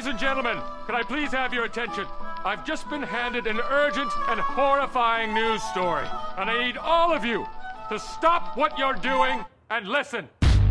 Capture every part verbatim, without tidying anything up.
Ladies and gentlemen, can I please have your attention? I've just been handed an urgent and horrifying news story, and I need all of you to stop what you're doing and listen.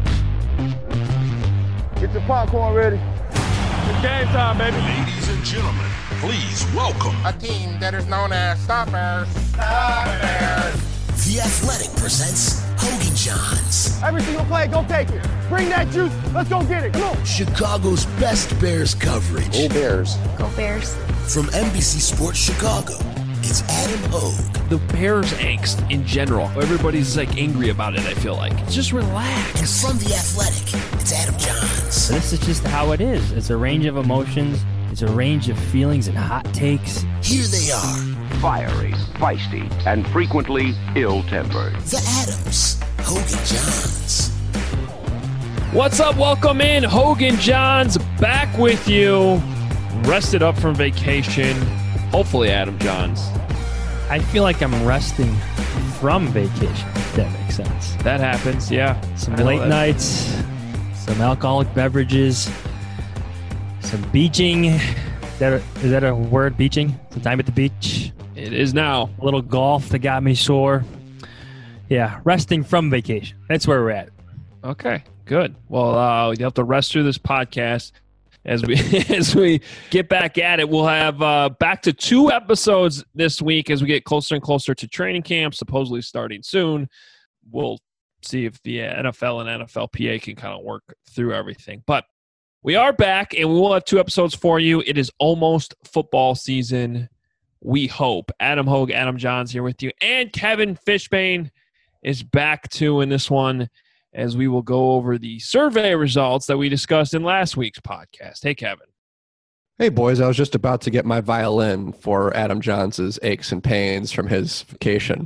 Get your popcorn ready. It's game time, baby. Ladies and gentlemen, please welcome A team that is known as Stoppers. Stoppers. The Athletic presents Hogan Johns, Every single play, go take it. Bring that juice. Let's go get it. Come on. Chicago's best Bears coverage. Go Bears. Go Bears. From N B C Sports Chicago, it's Adam Hogue. The Bears angst in general. Everybody's like angry about it, I feel like. Just relax. And from The Athletic, it's Adam Johns. This is just how it is. It's a range of emotions. It's a range of feelings and hot takes. Here they are. Fiery, feisty, and frequently ill-tempered. The Adams. Hogan Johns. What's up? Welcome in. Hogan Johns back with you. Rested up from vacation. Hopefully, Adam Johns. I feel like I'm resting from vacation, if that makes sense. That happens, yeah. Some late nights, some alcoholic beverages, some beaching. Is that a, is that a word, beaching? Some time at the beach. It is now. A little golf that got me sore. Yeah, resting from vacation. That's where we're at. Okay, good. Well, uh, you have to rest through this podcast. As we as we get back at it, we'll have uh, back to two episodes this week as we get closer and closer to training camp, supposedly starting soon. We'll see if the N F L and N F L P A can kind of work through everything. But we are back, and we will have two episodes for you. It is almost football season, we hope. Adam Hogue, Adam Johns here with you, and Kevin Fishbane is back too in this one, as we will go over the survey results that we discussed in last week's podcast. Hey, Kevin. Hey, boys. I was just about to get my violin for Adam Johns' aches and pains from his vacation.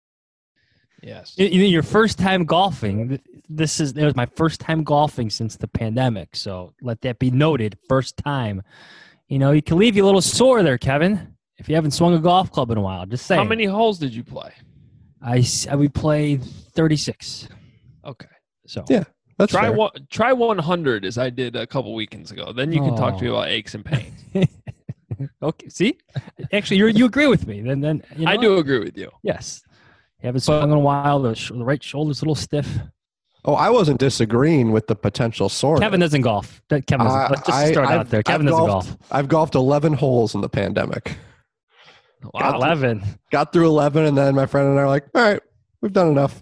Yes. You, you know, your first time golfing. This is it was my first time golfing since the pandemic. So let that be noted. First time. You know, you can leave you a little sore there, Kevin, if you haven't swung a golf club in a while. Just saying. How many holes did you play? I, we played thirty-six. Okay. So yeah, that's try fair. one, try one hundred as I did a couple weekends ago. Then you can oh. talk to me about aches and pains. Okay. See, actually, you you agree with me. Then then you know I do agree with you. Yes. You haven't swung in a while. The, sh- the right shoulder's a little stiff. Oh, I wasn't disagreeing with the potential soreness. Kevin doesn't golf. Kevin doesn't. Uh, Let's just I, start I've, out there. Kevin I've doesn't golfed, golf. I've golfed eleven holes in the pandemic. Wow, got eleven. Through, got through eleven, and then my friend and I are like, all right, we've done enough.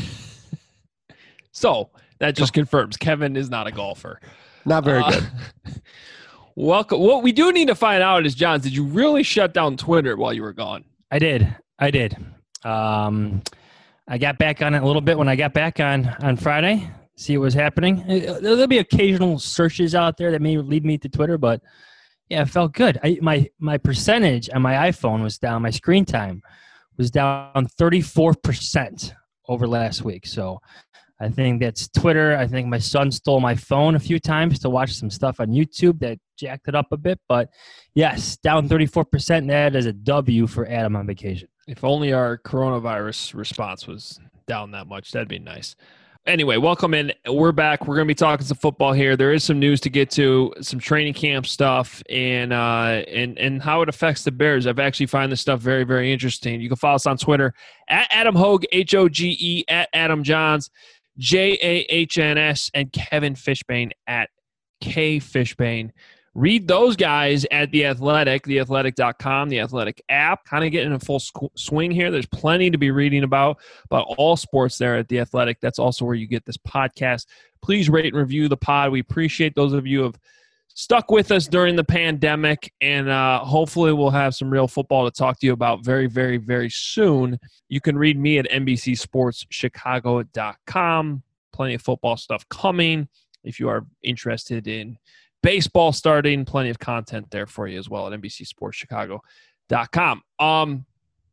So that just confirms Kevin is not a golfer. Not very uh, good. Welcome. What we do need to find out is, John, did you really shut down Twitter while you were gone? I did. I did. Um, I got back on it a little bit when I got back on, on Friday. See what was happening. There'll be occasional searches out there that may lead me to Twitter, but yeah, it felt good. I, my my percentage on my iPhone was down. My screen time was down thirty-four percent over last week. So I think that's Twitter. I think my son stole my phone a few times to watch some stuff on YouTube that jacked it up a bit. But yes, down thirty-four percent. And that is a W for Adam on vacation. If only our coronavirus response was down that much, that'd be nice. Anyway, welcome in. We're back. We're going to be talking some football here. There is some news to get to, some training camp stuff, and uh, and and how it affects the Bears. I've actually found this stuff very, very interesting. You can follow us on Twitter at Adam Hogue, H O G E, at Adam Johns, J A H N S, and Kevin Fishbane at K Fishbane. Read those guys at The Athletic, the athletic dot com, the Athletic app. Kind of getting in full swing here. There's plenty to be reading about, about all sports there at The Athletic. That's also where you get this podcast. Please rate and review the pod. We appreciate those of you who have stuck with us during the pandemic, and uh, hopefully we'll have some real football to talk to you about very, very, very soon. You can read me at N B C sports chicago dot com. Plenty of football stuff coming. If you are interested in baseball starting, plenty of content there for you as well at N B C sports chicago dot com. Um,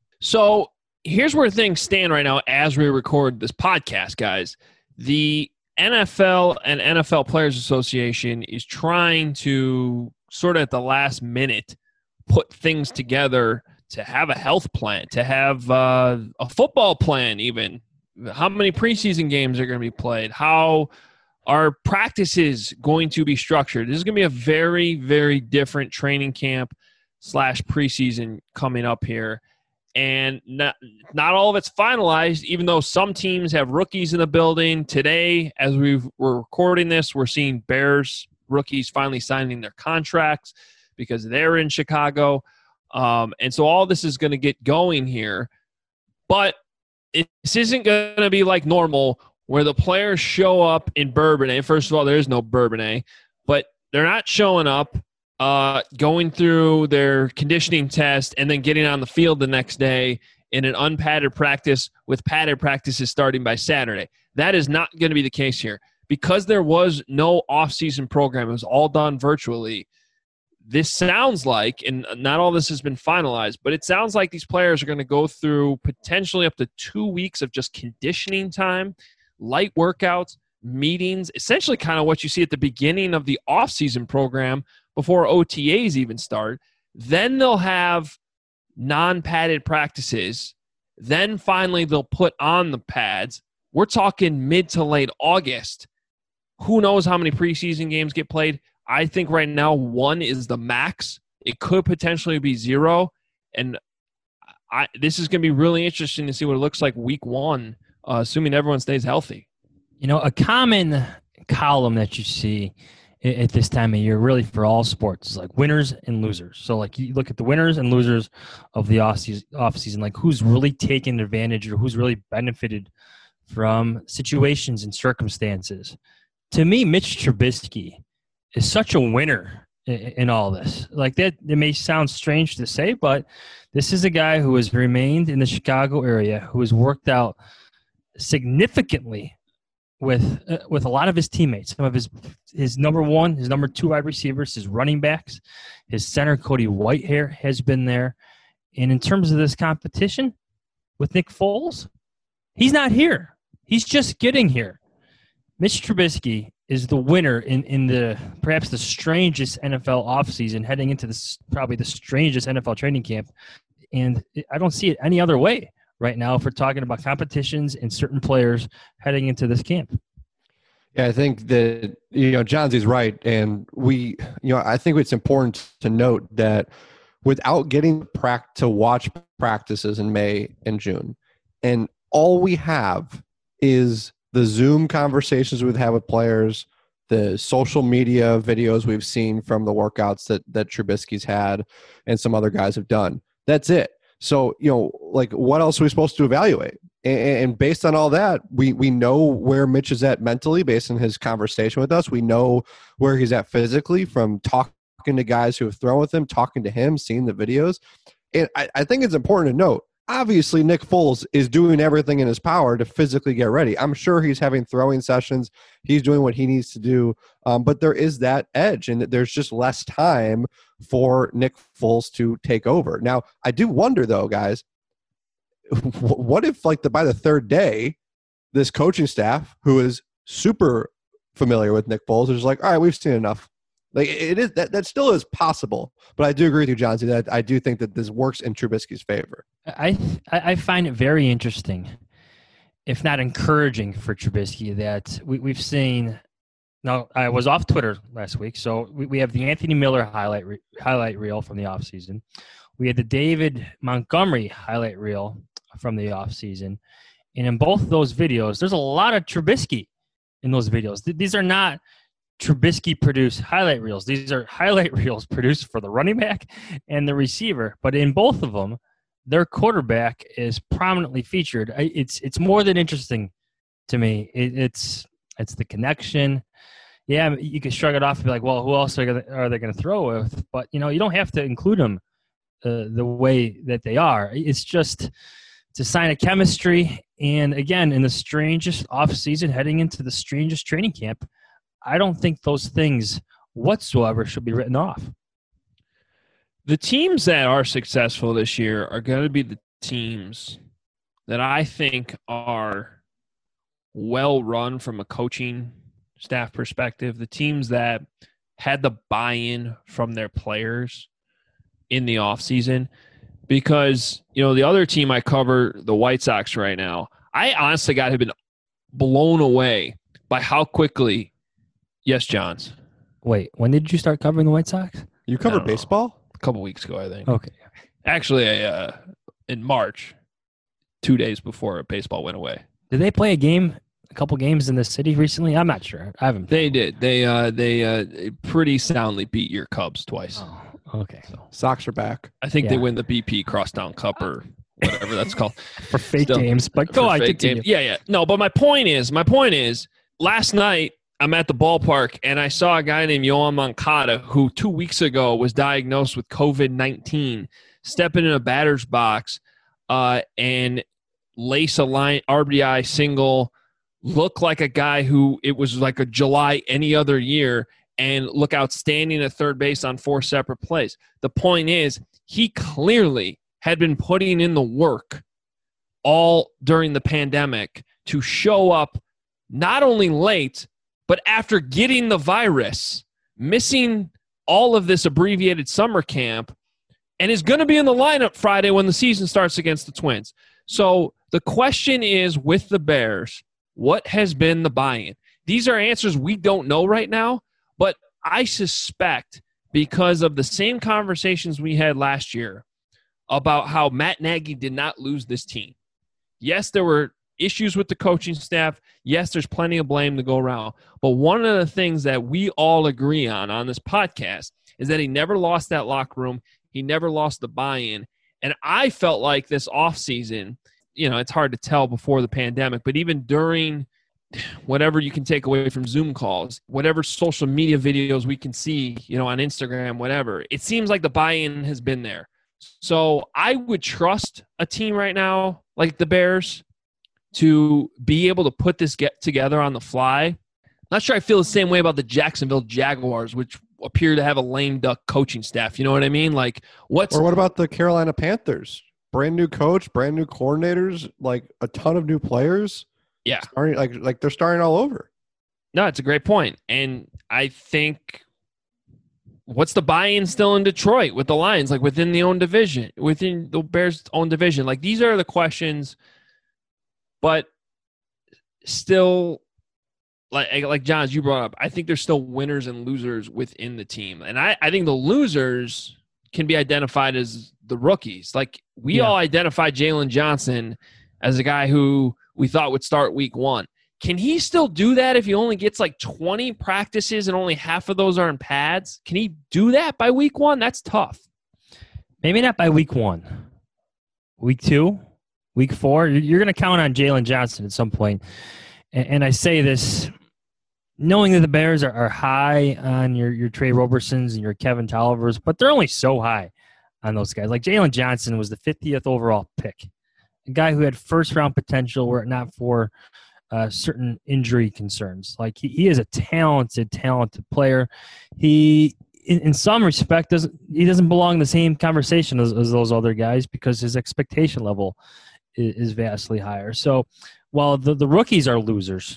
so here's where things stand right now as we record this podcast, guys. The N F L and N F L Players Association is trying to sort of at the last minute put things together to have a health plan, to have uh, a football plan even. How many preseason games are going to be played? How are practices going to be structured? This is going to be a very, very different training camp slash preseason coming up here. And not, not all of it's finalized, even though some teams have rookies in the building. Today, as we've, we're recording this, we're seeing Bears rookies finally signing their contracts because they're in Chicago. Um, and so all this is going to get going here. But it, this isn't going to be like normal where the players show up in Bourbonnais. First of all, there is no Bourbonnais. But they're not showing up, uh, going through their conditioning test, and then getting on the field the next day in an unpadded practice with padded practices starting by Saturday. That is not going to be the case here. Because there was no off-season program, it was all done virtually. This sounds like, and not all this has been finalized, but it sounds like these players are going to go through potentially up to two weeks of just conditioning time, light workouts, meetings, essentially kind of what you see at the beginning of the off-season program before O T As even start. Then they'll have non-padded practices. Then finally they'll put on the pads. We're talking mid to late August. Who knows how many preseason games get played? I think right now one is the max. It could potentially be zero. And I, this is going to be really interesting to see what it looks like week one, uh, assuming everyone stays healthy. You know, a common column that you see at this time of year, really for all sports, is like winners and losers. So like you look at the winners and losers of the off season, off season, like who's really taken advantage or who's really benefited from situations and circumstances. To me, Mitch Trubisky is such a winner in, in all this. Like that, it may sound strange to say, but this is a guy who has remained in the Chicago area, who has worked out significantly with uh, with a lot of his teammates, some of his his number one, his number two wide receivers, his running backs, his center Cody Whitehair has been there. And in terms of this competition with Nick Foles, he's not here. He's just getting here. Mitch Trubisky is the winner in, in the perhaps the strangest N F L offseason, heading into this probably the strangest N F L training camp. And I don't see it any other way right now if we're talking about competitions and certain players heading into this camp. Yeah, I think that, you know, Johnson's right. And we, you know, I think it's important to note that without getting prac- to watch practices in May and June, and all we have is the Zoom conversations we've had with players, the social media videos we've seen from the workouts that, that Trubisky's had and some other guys have done. That's it. So, you know, like what else are we supposed to evaluate? And, and based on all that, we, we know where Mitch is at mentally based on his conversation with us. We know where he's at physically from talking to guys who have thrown with him, talking to him, seeing the videos. And I, I think it's important to note, obviously Nick Foles is doing everything in his power to physically get ready. I'm sure he's having throwing sessions. He's doing what he needs to do. Um, but there is that edge, and there's just less time for Nick Foles to take over. Now, I do wonder, though, guys, what if, like, the by the third day, this coaching staff, who is super familiar with Nick Foles, is just like, all right, we've seen enough. Like, it is that that still is possible, but I do agree with you, John, that I do think that this works in Trubisky's favor. I I find it very interesting, if not encouraging, for Trubisky that we, we've seen. Now, I was off Twitter last week, so we, we have the Anthony Miller highlight re, highlight reel from the offseason. We had the David Montgomery highlight reel from the offseason. And in both of those videos, there's a lot of Trubisky in those videos. These are not Trubisky-produced highlight reels. These are highlight reels produced for the running back and the receiver. But in both of them, their quarterback is prominently featured. It's it's more than interesting to me. It, it's it's the connection. Yeah, you can shrug it off and be like, well, who else are, gonna, are they going to throw with? But, you know, you don't have to include them uh, the way that they are. It's just it's a sign of chemistry. And, again, in the strangest offseason, heading into the strangest training camp, I don't think those things whatsoever should be written off. The teams that are successful this year are going to be the teams that I think are well run from a coaching staff perspective, the teams that had the buy-in from their players in the offseason. Because, you know, the other team I cover, the White Sox right now, I honestly got have been blown away by how quickly Yes, Johns. Wait, when did you start covering the White Sox? You cover don't know. baseball? A couple weeks ago, I think. Okay. Actually, I, uh, in March, two days before baseball went away. Did they play a game, a couple games in the city recently? I'm not sure. I haven't. They did. They uh, they uh, pretty soundly beat your Cubs twice. Oh, okay. So Sox are back. I think Yeah. they win the B P Crosstown Cup or whatever that's called. For fake Still, games, but go for on, fake continue. games. Yeah, yeah. No, but my point is, my point is, last night I'm at the ballpark and I saw a guy named Yohan Moncada who two weeks ago was diagnosed with COVID nineteen, stepping in a batter's box uh, and lace a line R B I single, look like a guy who it was like a July any other year, and look outstanding at third base on four separate plays. The point is, he clearly had been putting in the work all during the pandemic to show up not only late, but after getting the virus, missing all of this abbreviated summer camp, and is going to be in the lineup Friday when the season starts against the Twins. So the question is, with the Bears, what has been the buy-in? These are answers we don't know right now, but I suspect because of the same conversations we had last year about how Matt Nagy did not lose this team. Yes, there were issues with the coaching staff. Yes, there's plenty of blame to go around. But one of the things that we all agree on on this podcast is that he never lost that locker room. He never lost the buy-in. And I felt like this offseason, you know, it's hard to tell before the pandemic, but even during whatever you can take away from Zoom calls, whatever social media videos we can see, you know, on Instagram, whatever, it seems like the buy-in has been there. So I would trust a team right now like the Bears to be able to put this get together on the fly. Not sure I feel the same way about the Jacksonville Jaguars, which appear to have a lame duck coaching staff. You know what I mean? Like, what's Or what about the Carolina Panthers? Brand new coach, brand new coordinators, like a ton of new players. Yeah. Starting, like like they're starting all over. No, it's a great point. And I think what's the buy-in still in Detroit with the Lions, like within the own division, within the Bears' own division? Like, these are the questions, but still, like like Johns, you brought up, I think there's still winners and losers within the team. And I, I think the losers can be identified as the rookies. Like, we Yeah. all identified Jalen Johnson as a guy who we thought would start week one. Can he still do that if he only gets like twenty practices and only half of those are in pads? Can he do that by week one? That's tough. Maybe not by week one. Week two, week four, you're going to count on Jalen Johnson at some point. And, and I say this knowing that the Bears are, are high on your, your Trey Robersons and your Kevin Tollivers, but they're only so high on those guys. Like, Jalen Johnson was the fiftieth overall pick, a guy who had first-round potential were it not for Uh, certain injury concerns. Like, he, he is a talented, talented player. He, in, in some respect, doesn't he doesn't belong in the same conversation as, as those other guys because his expectation level is, is vastly higher. So, while the, the rookies are losers,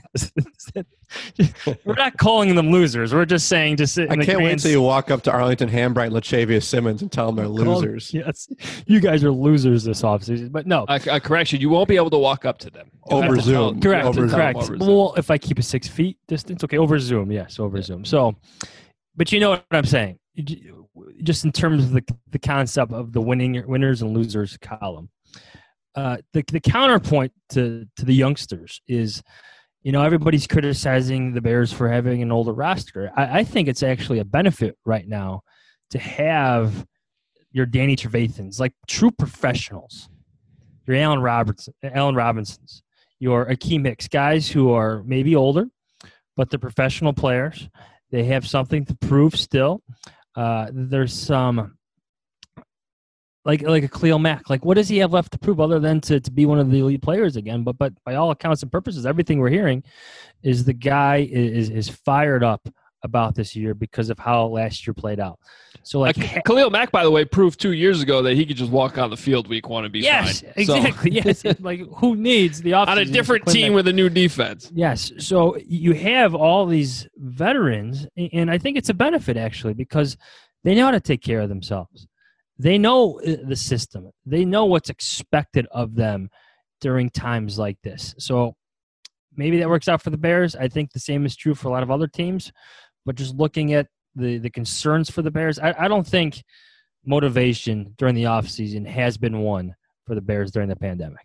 we're not calling them losers. We're just saying just in I the can't wait grand until you walk up to Arlington Hambright and Latavius Simmons and tell them they're Call- losers. Yes, you guys are losers this offseason. But no, A, a correction, you won't be able to walk up to them. You'll Over have to tell- Zoom. you'll correct, have to tell them correct. over Zoom. Well, if I keep a six feet distance, okay, over Zoom, yes, over Zoom. So, but you know what I'm saying. Just in terms of the the concept of the winning winners and losers column, uh, the the counterpoint to to the youngsters is, you know, everybody's criticizing the Bears for having an older roster. I, I think it's actually a benefit right now to have your Danny Trevathans, like true professionals, your Allen Robertson, Allen Robinsons, your Akeem Hicks, guys who are maybe older, but they're professional players. They have something to prove still. Uh, there's some like like a Khalil Mack. Like, what does he have left to prove other than to, to be one of the elite players again? But but by all accounts and purposes, everything we're hearing is the guy is is fired up about this year because of how last year played out. So like Uh, Khalil Mack, by the way, proved two years ago that he could just walk on the field week one and be yes, fine. exactly. So, yes, like who needs the offseason on a different to clean team that- with a new defense. Yes. So you have all these veterans, and I think it's a benefit actually because they know how to take care of themselves. They know the system. They know what's expected of them during times like this. So maybe that works out for the Bears. I think the same is true for a lot of other teams. But just looking at the, the concerns for the Bears, I, I don't think motivation during the offseason has been one for the Bears during the pandemic.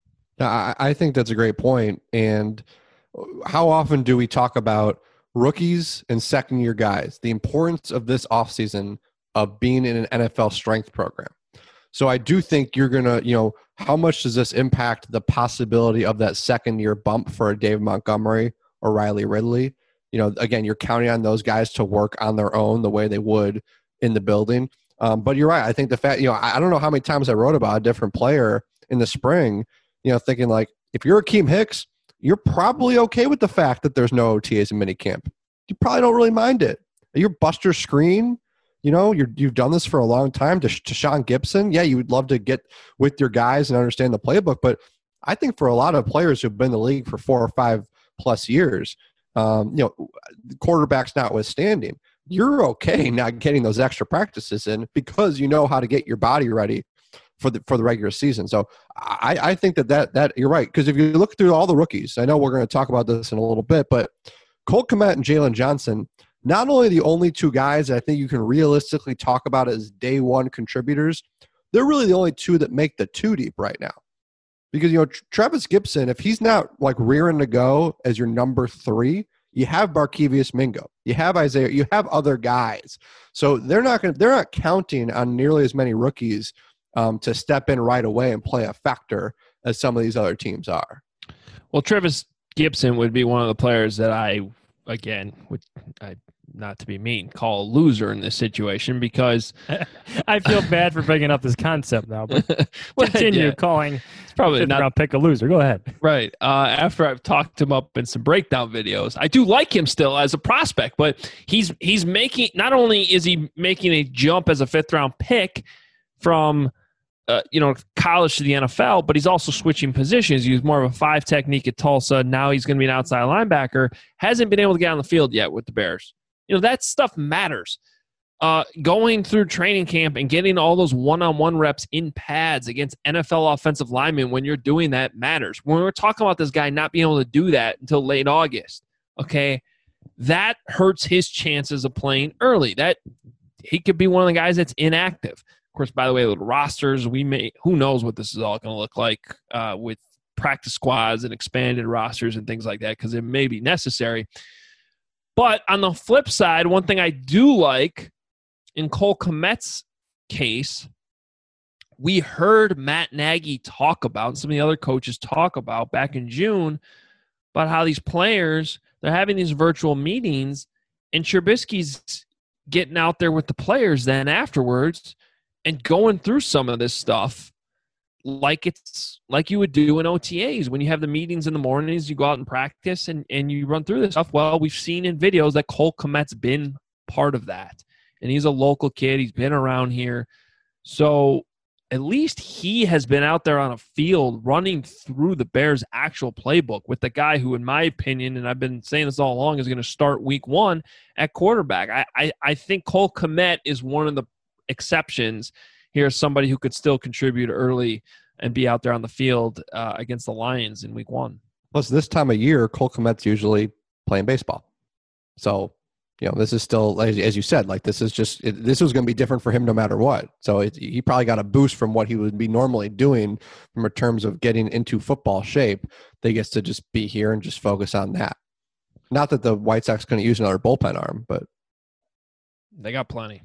I, I think that's a great point. And how often do we talk about rookies and second-year guys, the importance of this offseason of being in an N F L strength program? So I do think you're going to, you know, how much does this impact the possibility of that second-year bump for a Dave Montgomery or Riley Ridley? You know, again, you're counting on those guys to work on their own the way they would in the building. Um, but you're right. I think the fact, you know, I, I don't know how many times I wrote about a different player in the spring, you know, thinking like, if you're Akeem Hicks, you're probably okay with the fact that there's no O T As in minicamp. You probably don't really mind it. You're Buster Screen. You know, you're, you've done this for a long time. To, to Sean Gibson, yeah, you would love to get with your guys and understand the playbook. But I think for a lot of players who've been in the league for four or five plus years, um, you know, quarterbacks notwithstanding, you're okay not getting those extra practices in because you know how to get your body ready for the for the regular season. So I, I think that, that that you're right. Because if you look through all the rookies, I know we're going to talk about this in a little bit, but Cole Kmet and Jalen Johnson, not only the only two guys that I think you can realistically talk about as day one contributors, they're really the only two that make the two deep right now. Because, you know, Travis Gibson, if he's not like rearing to go as your number three, you have Barkevious Mingo, you have Isaiah, you have other guys. So they're not going to, they're not counting on nearly as many rookies um, to step in right away and play a factor as some of these other teams are. Well, Travis Gibson would be one of the players that I, again, would I not to be mean, call a loser in this situation because I feel bad for bringing up this concept now, but well, continue yeah. calling. It's probably not round pick a loser. Go ahead. Right. Uh, after I've talked him up in some breakdown videos, I do like him still as a prospect, but he's he's making not only is he making a jump as a fifth round pick from uh, you know college to the N F L, but he's also switching positions. He was more of a five technique at Tulsa. Now he's going to be an outside linebacker. Hasn't been able to get on the field yet with the Bears. You know, that stuff matters. Uh, going through training camp and getting all those one-on-one reps in pads against N F L offensive linemen when you're doing that matters. When we're talking about this guy not being able to do that until late August, okay, that hurts his chances of playing early. That he could be one of the guys that's inactive. Of course, by the way, with rosters, we may who knows what this is all going to look like uh, with practice squads and expanded rosters and things like that because it may be necessary. But on the flip side, one thing I do like in Cole Kmet's case, we heard Matt Nagy talk about, and some of the other coaches talk about back in June, about how these players, they're having these virtual meetings, and Trubisky's getting out there with the players then afterwards and going through some of this stuff like it's like you would do in O T As when you have the meetings in the mornings, you go out and practice and, and you run through this stuff. Well, we've seen in videos that Cole Kmet's been part of that. And he's a local kid. He's been around here. So at least he has been out there on a field running through the Bears' actual playbook with the guy who, in my opinion, and I've been saying this all along, is going to start week one at quarterback. I, I, I think Cole Kmet is one of the exceptions. Here's somebody who could still contribute early and be out there on the field uh, against the Lions in week one. Plus, this time of year, Cole Kmet's usually playing baseball. So, you know, this is still, as you said, like this is just, it, this was going to be different for him no matter what. So it, he probably got a boost from what he would be normally doing from terms of getting into football shape. They gets to just be here and just focus on that. Not that the White Sox couldn't use another bullpen arm, but they got plenty.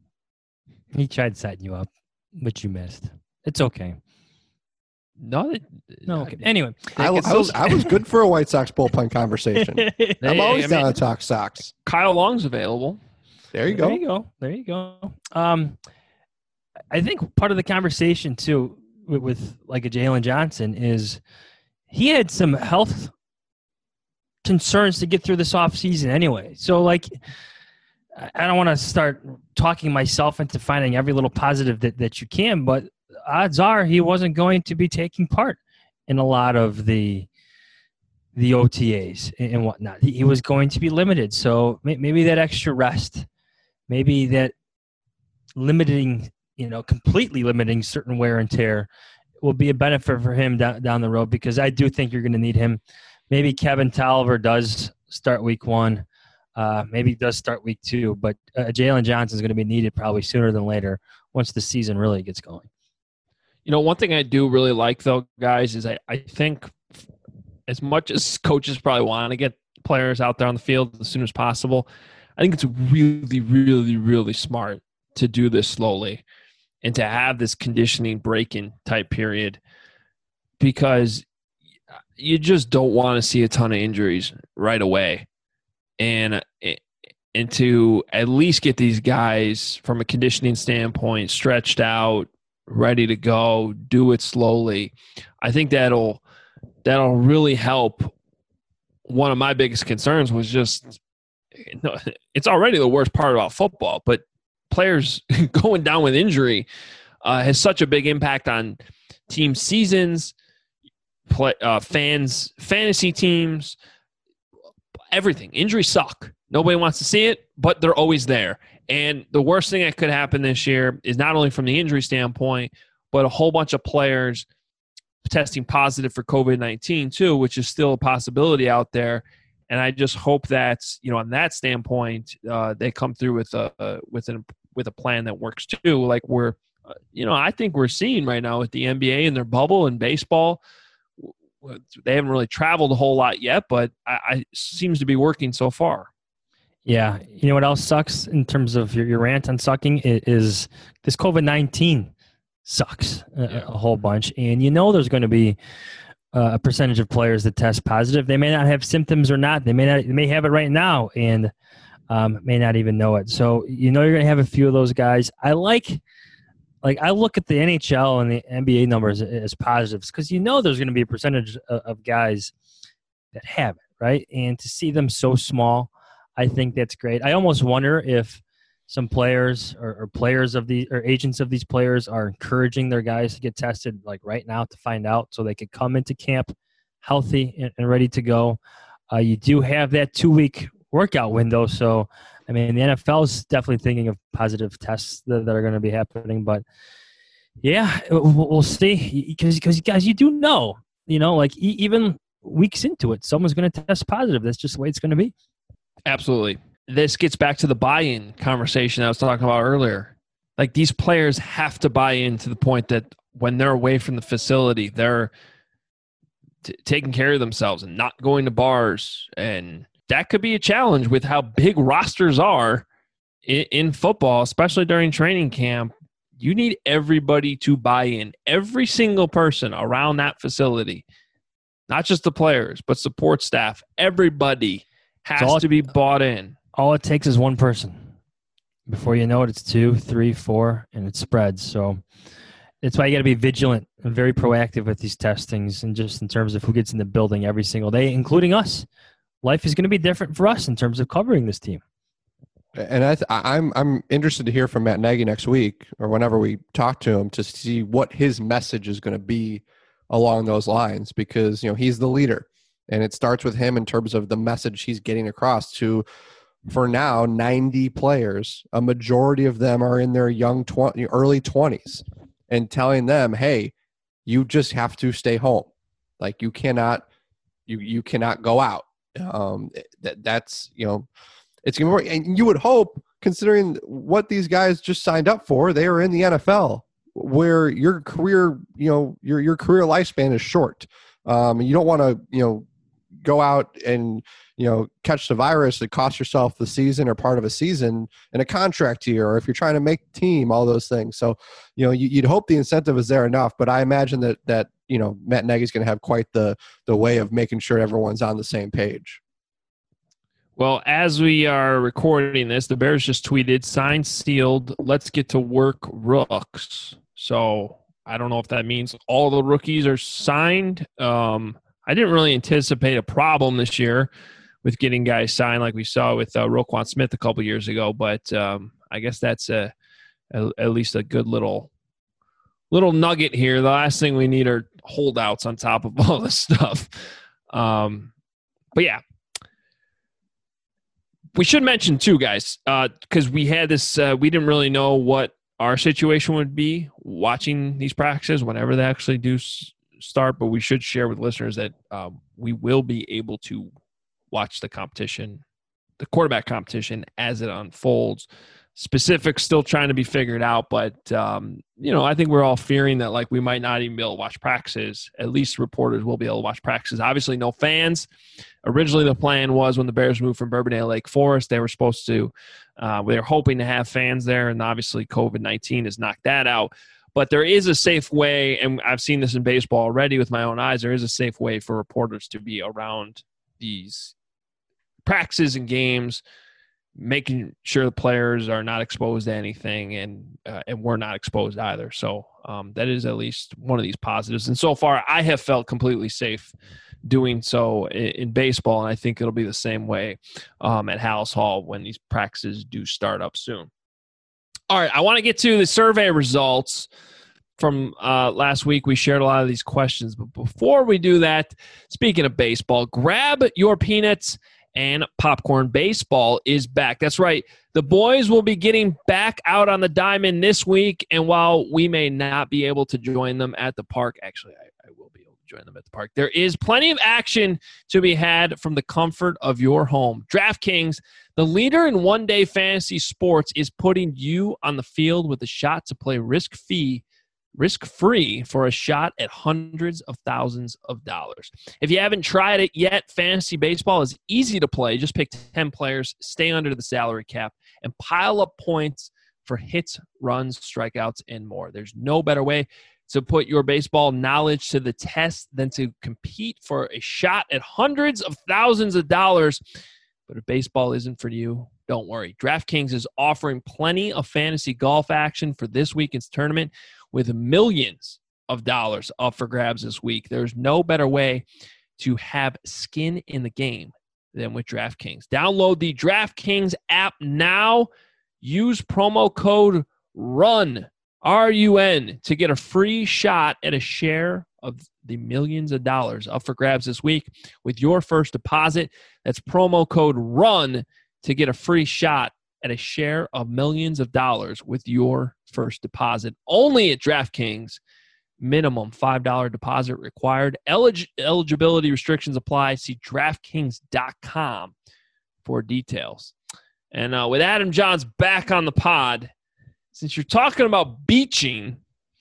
He tried setting you up, but you missed. It's okay. No, they, no. Okay. Anyway, I, I was I was good for a White Sox bullpen conversation. Hey, I'm always I down mean, to talk Sox. Kyle Long's available. There you go. There you go. There you go. Um, I think part of the conversation too with, with like a Jalen Johnson is he had some health concerns to get through this offseason anyway. So like, I don't want to start talking myself into finding every little positive that, that you can, but odds are he wasn't going to be taking part in a lot of the the O T As and whatnot. He, he was going to be limited. So maybe that extra rest, maybe that limiting, you know, completely limiting certain wear and tear will be a benefit for him down, down the road, because I do think you're going to need him maybe Kevin Tolliver does start week one. Uh, maybe he does start week two. But uh, Jalen Johnson is going to be needed probably sooner than later once the season really gets going. You know, one thing I do really like, though, guys, is I, I think as much as coaches probably want to get players out there on the field as soon as possible, I think it's really, really, really smart to do this slowly and to have this conditioning break-in type period, because you just don't want to see a ton of injuries right away. And, and to at least get these guys from a conditioning standpoint stretched out, ready to go, do it slowly. I think that'll that'll really help. One of my biggest concerns was just, it's already the worst part about football, but players going down with injury uh, has such a big impact on team seasons, play, uh, fans, fantasy teams, everything. Injuries suck. Nobody wants to see it, but they're always there. And the worst thing that could happen this year is not only from the injury standpoint, but a whole bunch of players testing positive for COVID nineteen too, which is still a possibility out there. And I just hope that, you know, on that standpoint, uh, they come through with a uh, with an with a plan that works too. Like we're, uh, you know, I think we're seeing right now with the N B A and their bubble and baseball. They haven't really traveled a whole lot yet, but I, I seems to be working so far. Yeah. You know what else sucks in terms of your, your rant on sucking is this COVID nineteen sucks a, yeah. a whole bunch. And you know there's going to be uh, a percentage of players that test positive. They may not have symptoms or not. They may not. They may have it right now and um, may not even know it. So you know you're going to have a few of those guys. I like, like I look at the N H L and the N B A numbers as positives because you know there's going to be a percentage of, of guys that have it, right? And to see them so small, I think that's great. I almost wonder if some players or, or players of the or agents of these players are encouraging their guys to get tested like right now to find out so they could come into camp healthy and, and ready to go. Uh, you do have that two-week workout window. So, I mean, the N F L is definitely thinking of positive tests that, that are going to be happening. But, yeah, we'll, we'll see. Because, because guys, you do know, you know, like e- even weeks into it, someone's going to test positive. That's just the way it's going to be. Absolutely. This gets back to the buy-in conversation I was talking about earlier. Like these players have to buy in to the point that when they're away from the facility, they're t- taking care of themselves and not going to bars. And that could be a challenge with how big rosters are in, in football, especially during training camp. You need everybody to buy in. Every single person around that facility, not just the players, but support staff, everybody has all, to be bought in. All it takes is one person. Before you know it, it's two, three, four, and it spreads. So that's why you got to be vigilant and very proactive with these testings and just in terms of who gets in the building every single day, including us. Life is going to be different for us in terms of covering this team. And I th- I'm I'm interested to hear from Matt Nagy next week or whenever we talk to him to see what his message is going to be along those lines, because you know he's the leader. And it starts with him in terms of the message he's getting across to, for now, ninety players. A majority of them are in their young twenty, early twenties, and telling them, "Hey, you just have to stay home. Like you cannot, you you cannot go out." Um, that that's you know, it's gonna work. And you would hope, considering what these guys just signed up for, they are in the N F L, where your career, you know, your your career lifespan is short. Um, you don't want to, you know. go out and, you know, catch the virus that cost yourself the season or part of a season in a contract year, or if you're trying to make the team, all those things. So, you know, you, you'd hope the incentive is there enough, but I imagine that, that, you know, Matt Nagy's going to have quite the, the way of making sure everyone's on the same page. Well, as we are recording this, the Bears just tweeted, signed, sealed, let's get to work rooks. So I don't know if that means all the rookies are signed. Um, I didn't really anticipate a problem this year with getting guys signed like we saw with uh, Roquan Smith a couple years ago, but um, I guess that's a, a, at least a good little little nugget here. The last thing we need are holdouts on top of all this stuff. Um, but, yeah. We should mention, too, guys, because uh, we had this uh, – we didn't really know what our situation would be watching these practices whenever they actually do s- start, but we should share with listeners that um, we will be able to watch the competition, the quarterback competition, as it unfolds. Specifics still trying to be figured out, but, um, you know, I think we're all fearing that, like, we might not even be able to watch practices. At least reporters will be able to watch practices. Obviously, no fans. Originally, the plan was when the Bears moved from Bourbonnais Lake Forest, they were supposed to uh, – they were hoping to have fans there, and obviously COVID nineteen has knocked that out. But there is a safe way, and I've seen this in baseball already with my own eyes, there is a safe way for reporters to be around these practices and games, making sure the players are not exposed to anything, and uh, and we're not exposed either. So um, that is at least one of these positives. And so far, I have felt completely safe doing so in, in baseball, and I think it'll be the same way um, at Halas Hall when these practices do start up soon. All right, I want to get to the survey results from uh, last week. We shared a lot of these questions, but before we do that, speaking of baseball, grab your peanuts and popcorn. Baseball is back. That's right. The boys will be getting back out on the diamond this week, and while we may not be able to join them at the park, actually, I, I will be able to join them at the park. There is plenty of action to be had from the comfort of your home. DraftKings, the leader in one-day fantasy sports, is putting you on the field with a shot to play risk-free risk-free for a shot at hundreds of thousands of dollars. If you haven't tried it yet, fantasy baseball is easy to play. Just pick ten players, stay under the salary cap, and pile up points for hits, runs, strikeouts, and more. There's no better way to put your baseball knowledge to the test than to compete for a shot at hundreds of thousands of dollars. But if baseball isn't for you, don't worry. DraftKings is offering plenty of fantasy golf action for this weekend's tournament, with millions of dollars up for grabs this week. There's no better way to have skin in the game than with DraftKings. Download the DraftKings app now. Use promo code RUN, R U N, to get a free shot at a share of the millions of dollars up for grabs this week with your first deposit. That's promo code RUN to get a free shot at a share of millions of dollars with your first deposit. Only at DraftKings. Minimum five dollars deposit required. Elig- eligibility restrictions apply. See DraftKings dot com for details. And uh, with Adam Johns back on the pod, since you're talking about beaching,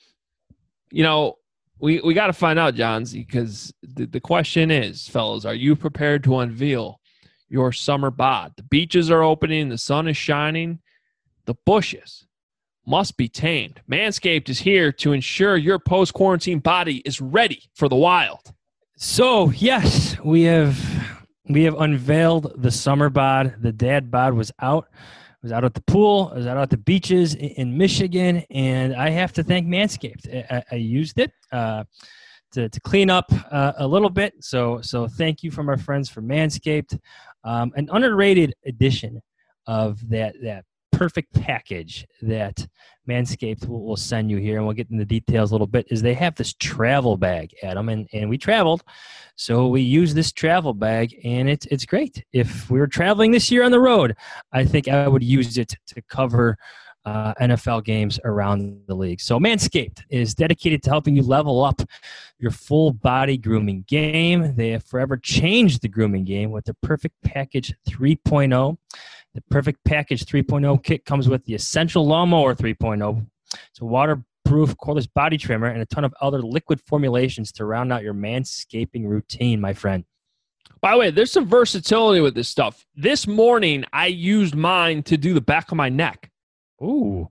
you know, we, we got to find out, Johns, because the, the question is, fellas, are you prepared to unveil your summer bod? The beaches are opening. The sun is shining. The bushes must be tamed. Manscaped is here to ensure your post-quarantine body is ready for the wild. So, yes, we have we have unveiled the summer bod. The dad bod was out. I was out at the pool. I was out at the beaches in, in Michigan, and I have to thank Manscaped. I, I used it uh, to, to clean up uh, a little bit. So, so thank you from our friends from Manscaped. Um, an underrated edition of that that perfect package that Manscaped will, will send you here, and we'll get into the details a little bit, is they have this travel bag, Adam, and, and we traveled, so we use this travel bag, and it's it's great. If we were traveling this year on the road, I think I would use it to cover uh, N F L games around the league. So Manscaped is dedicated to helping you level up your full body grooming game. They have forever changed the grooming game with the Perfect Package three point oh. The Perfect Package three point oh kit comes with the Essential Lawnmower three point oh. It's a waterproof cordless body trimmer and a ton of other liquid formulations to round out your manscaping routine, my friend. By the way, there's some versatility with this stuff. This morning, I used mine to do the back of my neck. Ooh.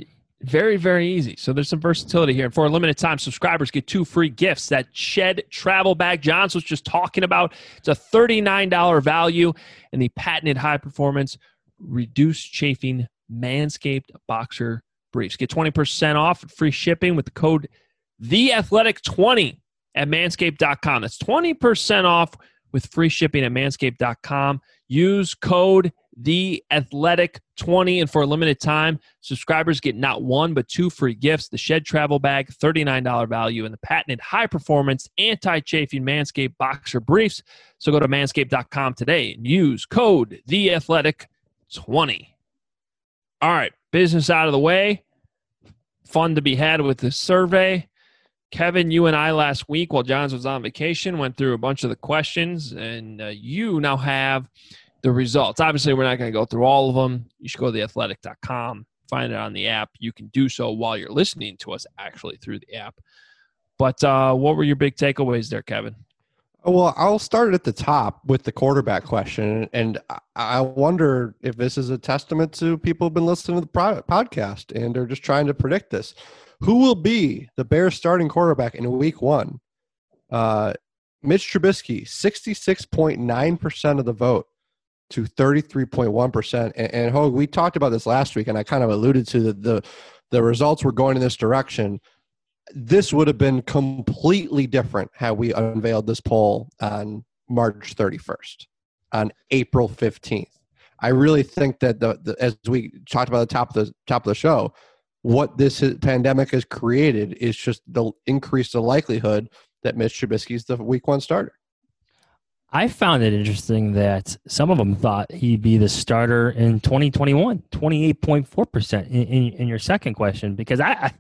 Very, very easy. So there's some versatility here. And for a limited time, subscribers get two free gifts. That Shed travel bag Johns was just talking about. It's a thirty-nine dollars value, and the patented high-performance reduced chafing Manscaped boxer briefs. Get twenty percent off and free shipping with the code the athletic twenty at manscaped dot com. That's twenty percent off with free shipping at manscaped dot com. Use code the athletic twenty, and for a limited time, subscribers get not one but two free gifts: the Shed travel bag, thirty-nine dollars value, and the patented high-performance anti-chafing Manscaped boxer briefs. So go to manscaped dot com today and use code the athletic twenty. All right, business out of the way. Fun to be had with this survey. Kevin, you and I last week while Johns was on vacation went through a bunch of the questions, and uh, you now have the results. Obviously, we're not going to go through all of them. You should go to the athletic dot com, find it on the app. You can do so while you're listening to us actually through the app. But uh, what were your big takeaways there, Kevin? Well, I'll start at the top with the quarterback question. And I wonder if this is a testament to people who've been listening to the podcast and are just trying to predict this. Who will be the Bears starting quarterback in week one? Uh, Mitch Trubisky, sixty-six point nine percent of the vote to thirty-three point one percent. And, and Hogue, we talked about this last week, and I kind of alluded to the, the, the results were going in this direction. This would have been completely different had we unveiled this poll on March thirty-first, on April fifteenth. I really think that the, the as we talked about at the top of the top of the show, what this pandemic has created is just the increase the likelihood that Mitch Trubisky is the week one starter. I found it interesting that some of them thought he'd be the starter in twenty twenty-one, twenty-eight point four percent in, in, in your second question, because I, I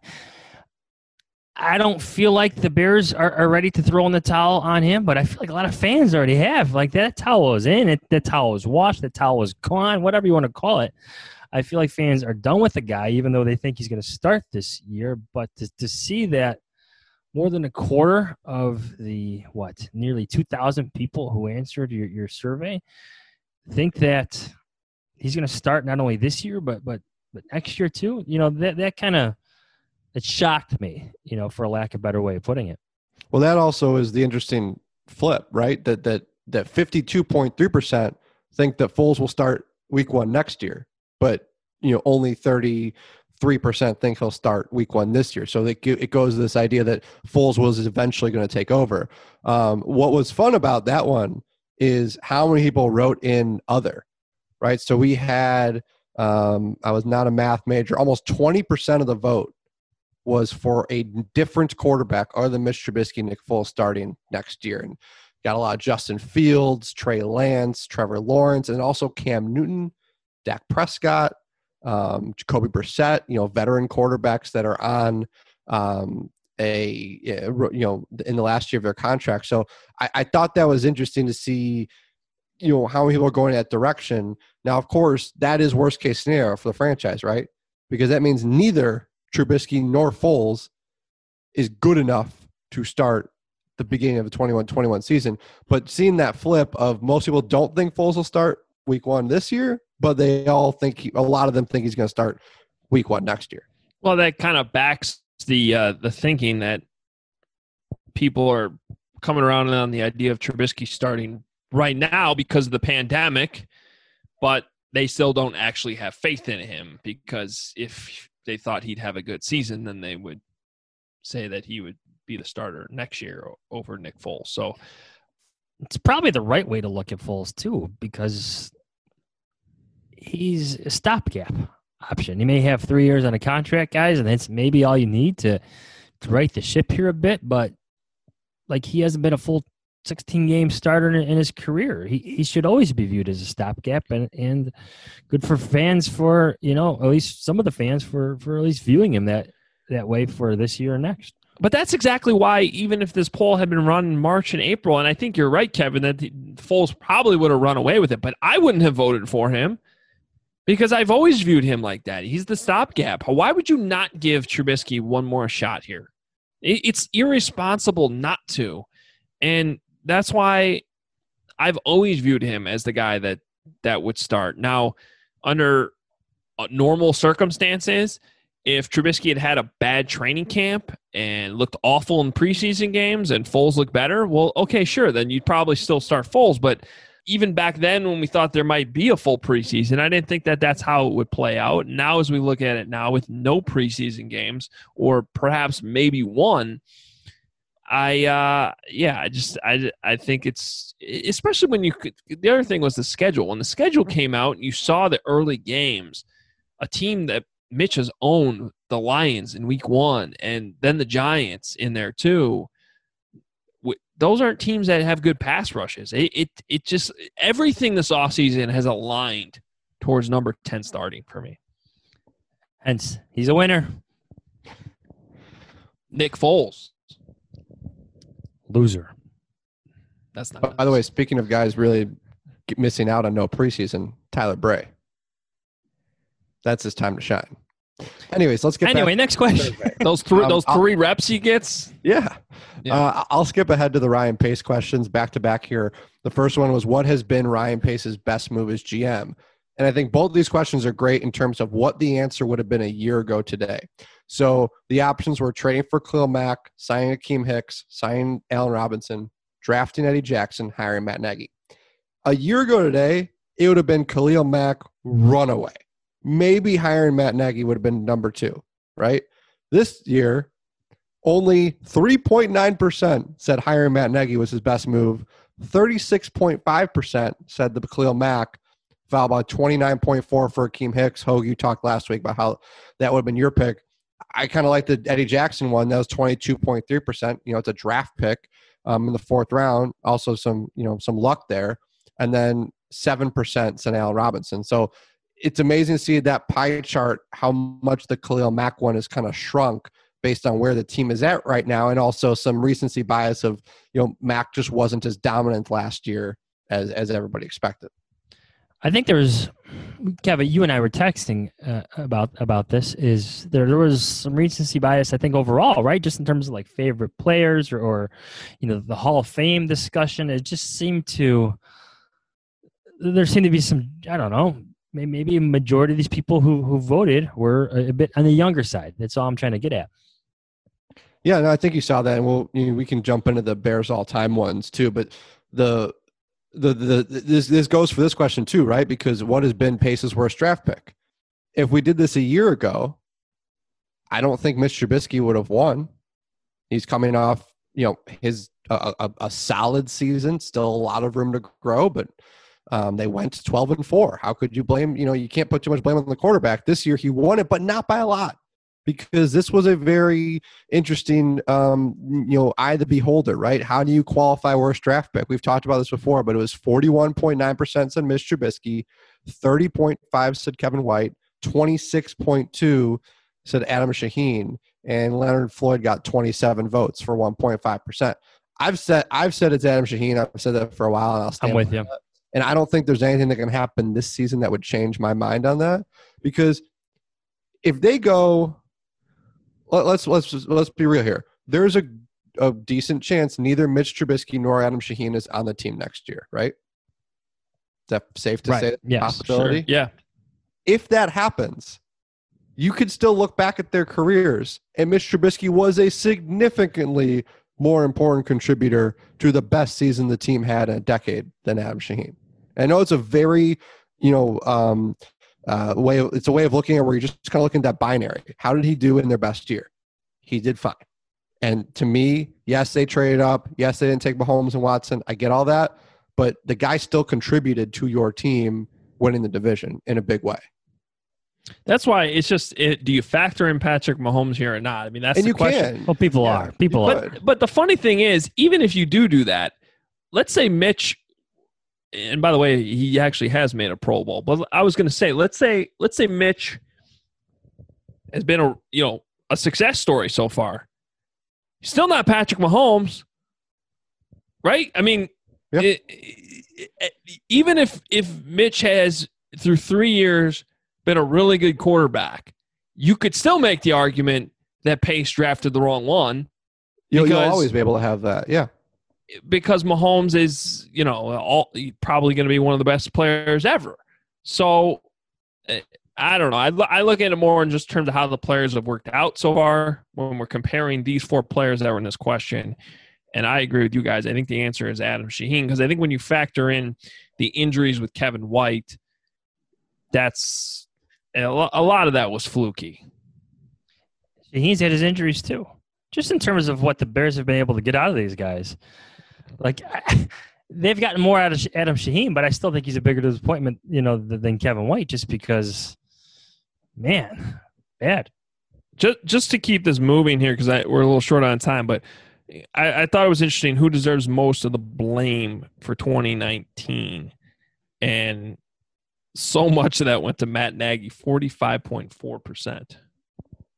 I don't feel like the Bears are, are ready to throw in the towel on him, but I feel like a lot of fans already have. Like, that towel was in, it, that towel was washed, that towel was gone, whatever you want to call it. I feel like fans are done with the guy, even though they think he's going to start this year. But to, to see that more than a quarter of the, what, nearly two thousand people who answered your, your survey think that he's going to start not only this year, but but but next year too, you know, that, that kind of, it shocked me, you know, for a lack of a better way of putting it. Well, that also is the interesting flip, right? That that that fifty-two point three percent think that Foles will start week one next year, but you know, only thirty-three percent think he'll start week one this year. So it, it goes to this idea that Foles was eventually going to take over. Um, what was fun about that one is how many people wrote in other, right? So we had, um, I was not a math major, almost twenty percent of the vote was for a different quarterback other than Mitch Trubisky, Nick Foles starting next year. And got a lot of Justin Fields, Trey Lance, Trevor Lawrence, and also Cam Newton, Dak Prescott, um, Jacoby Brissett, you know, veteran quarterbacks that are on um, a, you know, in the last year of their contract. So I, I thought that was interesting to see, you know, how many people are going that direction. Now, of course, that is worst case scenario for the franchise, right? Because that means neither Trubisky nor Foles is good enough to start the beginning of the twenty-one twenty-one season. But seeing that flip of most people don't think Foles will start week one this year, but they all think he, a lot of them think he's going to start week one next year. Well, that kind of backs the uh, the thinking that people are coming around on the idea of Trubisky starting right now because of the pandemic, but they still don't actually have faith in him, because if they thought he'd have a good season, then they would say that he would be the starter next year over Nick Foles. So it's probably the right way to look at Foles too, because he's a stopgap option. He may have three years on a contract, guys, and that's maybe all you need to, to right the ship here a bit. But like, he hasn't been a full sixteen game starter in, in his career. He he should always be viewed as a stopgap, and, and good for fans for, you know, at least some of the fans for, for at least viewing him that, that way for this year or next. But that's exactly why, even if this poll had been run in March and April, and I think you're right, Kevin, that the, Foles probably would have run away with it, but I wouldn't have voted for him because I've always viewed him like that. He's the stopgap. Why would you not give Trubisky one more shot here? It, it's irresponsible not to. And that's why I've always viewed him as the guy that, that would start. Now, under normal circumstances, if Trubisky had had a bad training camp and looked awful in preseason games and Foles looked better, well, okay, sure, then you'd probably still start Foles. But even back then when we thought there might be a full preseason, I didn't think that that's how it would play out. Now as we look at it now with no preseason games, or perhaps maybe one, I, uh, yeah, I just, I, I think it's, especially when you could, the other thing was the schedule. When the schedule came out and you saw the early games, a team that Mitch has owned, the Lions in week one, and then the Giants in there too. Those aren't teams that have good pass rushes. It, it, it just, everything this offseason has aligned towards number ten starting for me. Hence, he's a winner. Nick Foles. Loser. That's not. By nice. the way, speaking of guys really missing out on no preseason, Tyler Bray. That's his time to shine. Anyways, let's get anyway. back Next question. those three Um, those I'll- three reps he gets. Yeah. Yeah. Uh, I'll skip ahead to the Ryan Pace questions back to back here. The first one was, what has been Ryan Pace's best move as G M? And I think both these questions are great in terms of what the answer would have been a year ago today. So the options were trading for Khalil Mack, signing Akeem Hicks, signing Allen Robinson, drafting Eddie Jackson, hiring Matt Nagy. A year ago today, it would have been Khalil Mack runaway. Maybe hiring Matt Nagy would have been number two, right? This year, only three point nine percent said hiring Matt Nagy was his best move. thirty-six point five percent said the Khalil Mack, followed by twenty-nine point four percent for Akeem Hicks. Hogue, you talked last week about how that would have been your pick. I kind of like the Eddie Jackson one. That was twenty-two point three percent. You know, it's a draft pick um, in the fourth round. Also some, you know, some luck there. And then seven percent said Allen Robinson. So it's amazing to see that pie chart, how much the Khalil Mack one is kind of shrunk based on where the team is at right now. And also some recency bias of, you know, Mack just wasn't as dominant last year as, as everybody expected. I think there was, Kevin, you and I were texting uh, about about this. Is there there was some recency bias, I think, overall, right? Just in terms of like favorite players or, or you know, the Hall of Fame discussion. It just seemed to, there seemed to be some, I don't know, maybe, maybe a majority of these people who who voted were a, a bit on the younger side. That's all I'm trying to get at. Yeah, no, I think you saw that, and we'll you know, we can jump into the Bears all-time ones too. But the the the this this goes for this question too, right? Because what has been Pace's worst draft pick? If we did this a year ago, I don't think Mitch Trubisky would have won. He's coming off, you know, his a, a, a solid season, still a lot of room to grow, but um, they went twelve and four. How could you blame? You know, you can't put too much blame on the quarterback. This year he won it, but not by a lot. Because this was a very interesting, um, you know, eye of the beholder, right? How do you qualify worst draft pick? We've talked about this before, but it was forty-one point nine percent said Mitch Trubisky, thirty point five said Kevin White, twenty-six point two said Adam Shaheen, and Leonard Floyd got twenty-seven votes for one point five percent. I've said I've said it's Adam Shaheen. I've said that for a while, and I'll stand I'm with you. that. And I don't think there's anything that can happen this season that would change my mind on that, because if they go. Let's let's let's be real here. There's a, a decent chance neither Mitch Trubisky nor Adam Shaheen is on the team next year, right? Is that safe to Right. say? Yes, Possibility. Sure. Yeah. If that happens, you could still look back at their careers, and Mitch Trubisky was a significantly more important contributor to the best season the team had in a decade than Adam Shaheen. I know it's a very, you know. Um, Uh, way of, it's a way of looking at where you're just kind of looking at that binary. How did he do in their best year? He did fine. And to me, yes, they traded up. Yes, they didn't take Mahomes and Watson. I get all that. But the guy still contributed to your team winning the division in a big way. That's why it's just, it, do you factor in Patrick Mahomes here or not? I mean, that's And the you question. can. Well, people Yeah, are. People you are. could. But, but the funny thing is, even if you do do that, let's say Mitch, and by the way, he actually has made a Pro Bowl. But I was going to say, let's say, let's say Mitch has been a you know a success story so far. He's still not Patrick Mahomes, right? I mean, Yeah. it, it, it, even if if Mitch has through three years been a really good quarterback, you could still make the argument that Pace drafted the wrong one. You'll, you'll because- always be able to have that. Yeah. Because Mahomes is, you know, all, probably going to be one of the best players ever. So, eh, I don't know. I, I look at it more in just terms of how the players have worked out so far when we're comparing these four players that were in this question. And I agree with you guys. I think the answer is Adam Shaheen, because I think when you factor in the injuries with Kevin White, that's a lo- a lot of that was fluky. He's had his injuries too. Just in terms of what the Bears have been able to get out of these guys. Like, I, they've gotten more out of Adam Shaheen, but I still think he's a bigger disappointment, you know, than Kevin White, just because, man, bad. Just just to keep this moving here, because we're a little short on time, but I, I thought it was interesting who deserves most of the blame for twenty nineteen. And so much of that went to Matt Nagy, forty-five point four percent.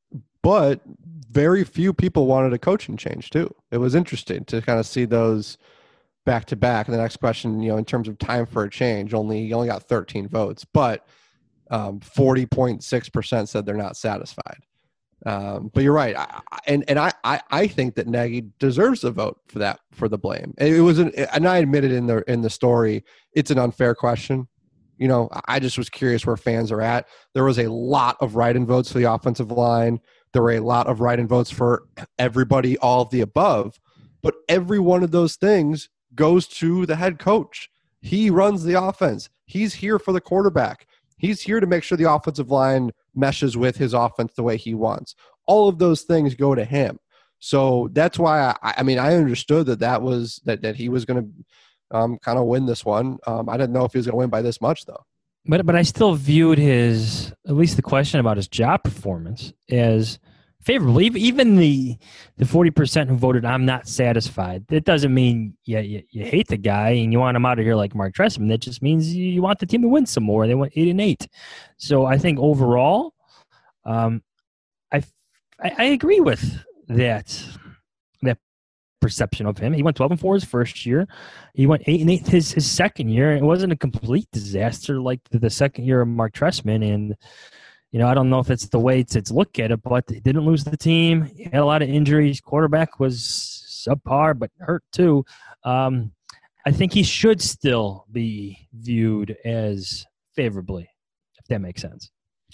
but very few people wanted a coaching change too. It was interesting to kind of see those back to back. And the next question, you know, in terms of time for a change, only you only got thirteen votes, but um, forty point six percent said they're not satisfied. Um, but you're right. I, and and I, I, I think that Nagy deserves a vote for that, for the blame. It was an, and I admitted in the, in the story, it's an unfair question. You know, I just was curious where fans are at. There was a lot of write-in votes for the offensive line. There were a lot of write-in votes for everybody, all of the above, but every one of those things goes to the head coach. He runs the offense. He's here for the quarterback. He's here to make sure the offensive line meshes with his offense the way he wants. All of those things go to him. So that's why I, I mean, I understood that that was that, that he was going to um, kind of win this one. Um, I didn't know if he was going to win by this much though. But but I still viewed his, at least the question about his job performance, as favorable. Even the the forty percent who voted I'm not satisfied, that doesn't mean you, you, you hate the guy and you want him out of here like Mark Trestman. That just means you want the team to win some more. They went eight and eight. So I think overall, um, I, I I agree with that that perception of him. He went twelve and four his first year. He went eight and eight his, his second year. It wasn't a complete disaster like the, the second year of Mark Trestman. And you know, I don't know if it's the way to, to look at it, but he didn't lose the team. He had a lot of injuries. Quarterback was subpar, but hurt too. Um, I think he should still be viewed as favorably, if that makes sense.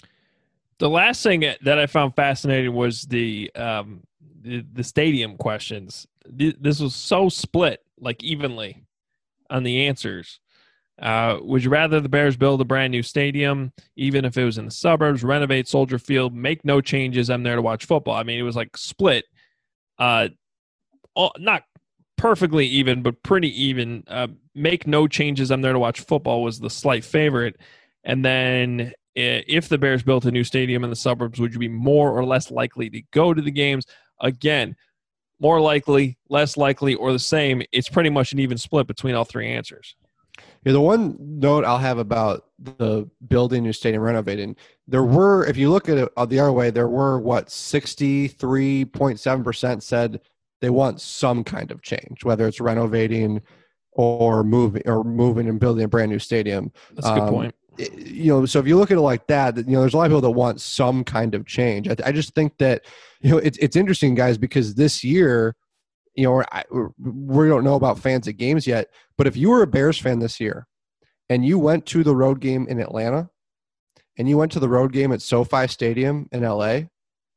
The last thing that I found fascinating was the um, the, the stadium questions. This was so split, like evenly, on the answers. Uh, would you rather the Bears build a brand new stadium, even if it was in the suburbs, renovate Soldier Field, make no changes, I'm there to watch football? I mean, it was like split. Uh, all, not perfectly even, but pretty even. Uh, make no changes, I'm there to watch football was the slight favorite. And then if the Bears built a new stadium in the suburbs, would you be more or less likely to go to the games? Again, more likely, less likely, or the same. It's pretty much an even split between all three answers. Yeah, the one note I'll have about the building new stadium renovating, there were, if you look at it the other way, there were, what, sixty-three point seven percent said they want some kind of change, whether it's renovating or moving or moving and building a brand new stadium. That's a good um, point. It, you know, so if you look at it like that, you know, there's a lot of people that want some kind of change. I, I just think that, you know, it's it's interesting, guys, because this year, you know, I, we don't know about fans at games yet, but if you were a Bears fan this year and you went to the road game in Atlanta and you went to the road game at SoFi Stadium in L A,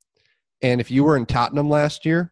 and if you were in Tottenham last year,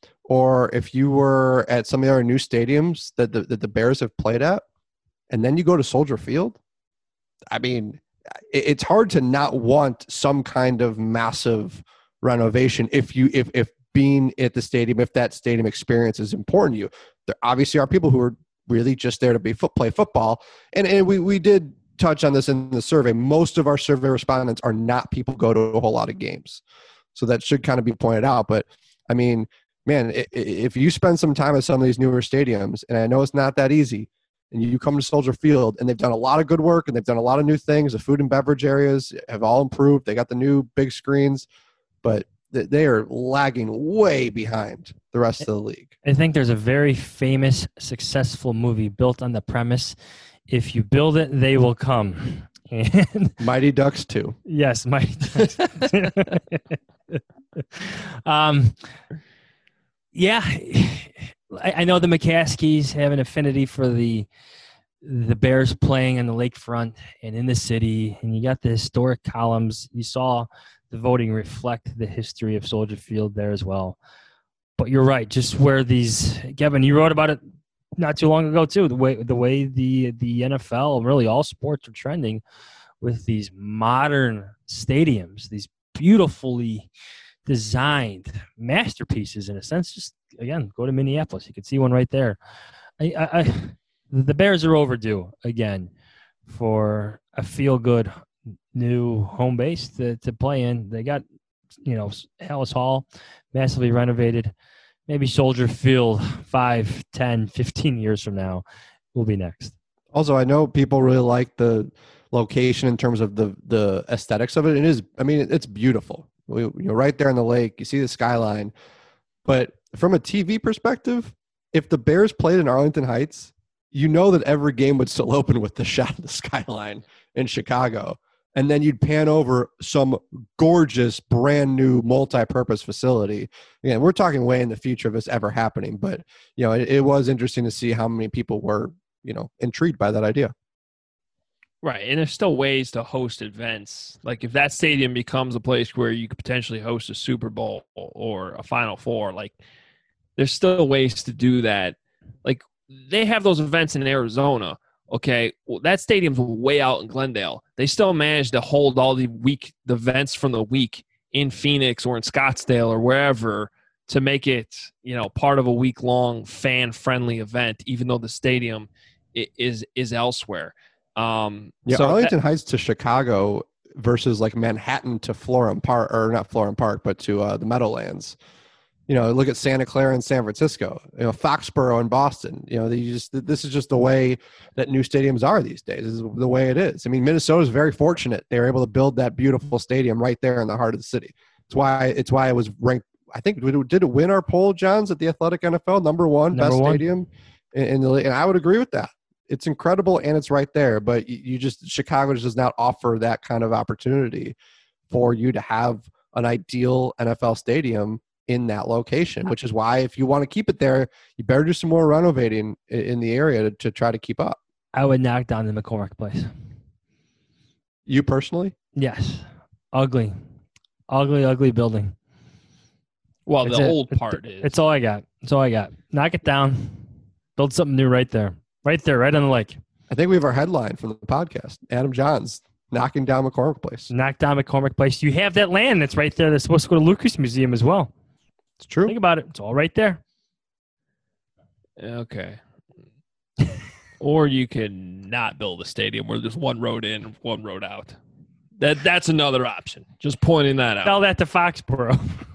or if you were at some of the other new stadiums that the, that the Bears have played at, and then you go to Soldier Field, I mean, it's hard to not want some kind of massive renovation if you if if being at the stadium, if that stadium experience is important to you. There obviously are people who are really just there to be foot, play football. And, and we, we did touch on this in the survey. Most of our survey respondents are not people who go to a whole lot of games. So that should kind of be pointed out. But, I mean, man, if you spend some time at some of these newer stadiums, and I know it's not that easy, and you come to Soldier Field, and they've done a lot of good work, and they've done a lot of new things. The food and beverage areas have all improved. They got the new big screens, but they are lagging way behind the rest of the league. I think there's a very famous, successful movie built on the premise, if you build it, they will come. And Mighty Ducks two. Yes, Mighty Ducks. um, yeah, I, I know the McCaskies have an affinity for the the Bears playing on the lakefront and in the city, and you got the historic columns. You saw the voting reflect the history of Soldier Field there as well. But you're right, just where these, Kevin, you wrote about it not too long ago too, the way the way the the N F L and really all sports are trending with these modern stadiums, these beautifully designed masterpieces in a sense. Just again, go to Minneapolis, you can see one right there. I, I, I the Bears are overdue again for a feel-good new home base to, to play in. They got, you know, Hallis Hall massively renovated. Maybe Soldier Field five, ten, fifteen years from now will be next. Also, I know people really like the location in terms of the, the aesthetics of it. It is, I mean, it's beautiful. We, you know, right there in the lake, you see the skyline. But from a T V perspective, if the Bears played in Arlington Heights, you know that every game would still open with the shot of the skyline in Chicago. And then you'd pan over some gorgeous, brand new multi-purpose facility. Again, we're talking way in the future of this ever happening, but you know, it, it was interesting to see how many people were, you know, intrigued by that idea. Right, and there's still ways to host events. Like if that stadium becomes a place where you could potentially host a Super Bowl or a Final Four, like there's still ways to do that. Like they have those events in Arizona. Okay, well, that stadium's way out in Glendale. They still managed to hold all the week the events from the week in Phoenix or in Scottsdale or wherever to make it, you know, part of a week-long fan-friendly event, even though the stadium is is elsewhere. Um, yeah, so Arlington that, Heights to Chicago versus like Manhattan to Florham Park, or not Florham Park, but to uh, the Meadowlands. You know, look at Santa Clara and San Francisco. You know, Foxborough and Boston. You know, they just this is just the way that new stadiums are these days. This is the way it is. I mean, Minnesota is very fortunate; they were able to build that beautiful stadium right there in the heart of the city. It's why it's why it was ranked. I think did it, did it win our poll, Johns, at the Athletic N F L number one number best one. stadium in, in the league? And I would agree with that. It's incredible and it's right there, but you, you just Chicago just does not offer that kind of opportunity for you to have an ideal N F L stadium in that location, which is why if you want to keep it there, you better do some more renovating in, in the area to, to try to keep up. I would knock down the McCormick Place. You personally? Yes. Ugly. Ugly, ugly building. well, It's the a- old it- part is It's all I got. It's all I got. Knock it down. Build something new right there. Right there, right on the lake. I think we have our headline from the podcast. Adam Johns knocking down McCormick Place. Knock down McCormick Place. You have that land that's right there that's supposed to go to Lucas Museum as well. It's true. Think about it. It's all right there. okay. Or you can not build a stadium where there's one road in, one road out. That that's another option. Just pointing that out. Tell that to Foxborough.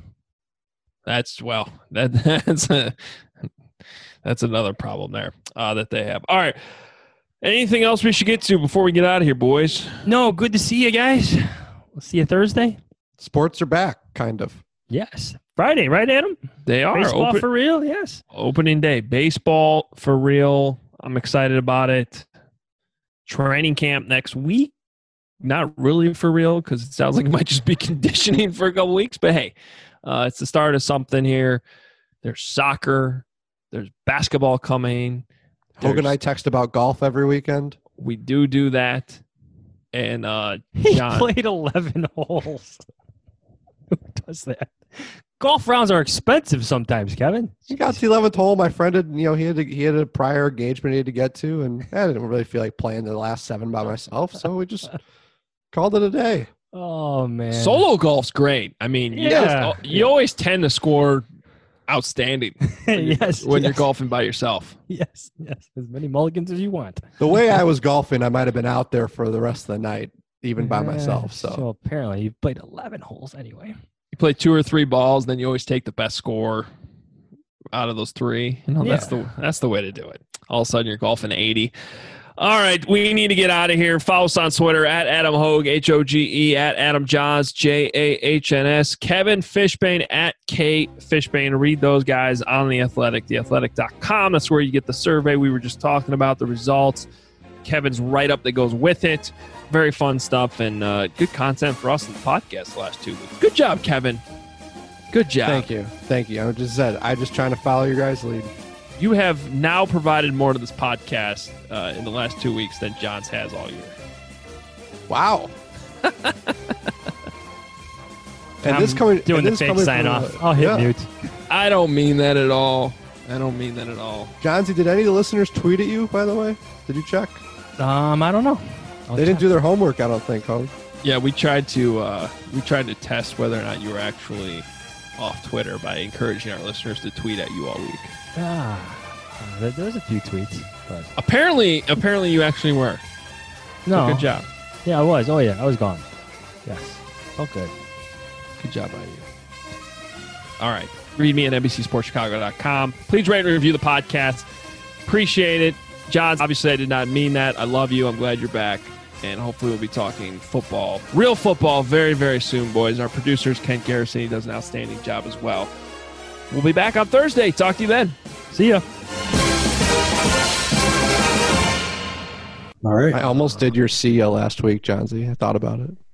That's well, that that's a, that's another problem there uh, that they have. All right. Anything else we should get to before we get out of here, boys? No, good to see you guys. We'll see you Thursday. Sports are back, kind of. Yes. Friday, right, Adam? They are Baseball open, for real, yes. opening day. Baseball for real. I'm excited about it. Training camp next week. Not really for real because it sounds like it might just be conditioning for a couple weeks. But hey, uh, it's the start of something here. There's soccer. There's basketball coming. Hogan and I There's- text about golf every weekend. We do do that. And uh, He John, played eleven holes. Who does that? Golf rounds are expensive sometimes, Kevin. He got to the eleventh hole. My friend had, you know, he had to, he had a prior engagement he had to get to, and I didn't really feel like playing the last seven by myself, so we just called it a day. Oh, man. solo golf's great. I mean, you, Yeah. just- you always tend to score outstanding yes. when you're yes, golfing by yourself. Yes, yes. As many mulligans as you want. The way I was golfing, I might have been out there for the rest of the night, even by Yeah, myself. So, so apparently you played eleven holes anyway. You play two or three balls, then you always take the best score out of those three. You know, that's Yeah. the that's the way to do it. All of a sudden, you're golfing eighty. All right, we need to get out of here. Follow us on Twitter at Adam Hogue, H O G E, at Adam Johns, J A H N S, Kevin Fishbane at K Fishbane. Read those guys on The Athletic, the athletic dot com. That's where you get the survey we were just talking about, the results. Kevin's write-up that goes with it. Very fun stuff and uh, good content for us in the podcast the last two weeks. Good job, Kevin. Good job. thank you, thank you. I just said I'm just trying to follow your guys' lead. You have now provided more to this podcast uh, in the last two weeks than Johns has all year. Wow. and I'm this coming doing and the this fake coming sign from, off. uh, I'll hit yeah. mute. I don't mean that at all. I don't mean that at all. Johnsy, did any of the listeners tweet at you? By the way, did you check? Um, I don't know. I'll They didn't check. do their homework, I don't think, Hogue. Yeah, we tried to uh, we tried to test whether or not you were actually off Twitter by encouraging our listeners to tweet at you all week. Ah, uh, there, there was a few tweets, but Apparently, apparently you actually were. So no. good job. Yeah, I was. Oh yeah, I was gone. Yes. Oh good. Good job by you. All right. Read me at N B C Sports Chicago dot com. Please rate and review the podcast. Appreciate it. John, obviously I did not mean that. I love you. I'm glad you're back. And hopefully we'll be talking football, real football, very, very soon, boys. Our producer's Kent Garrison. He does an outstanding job as well. We'll be back on Thursday. Talk to you then. See ya. All right. I almost did your see ya last week, John Z. I thought about it.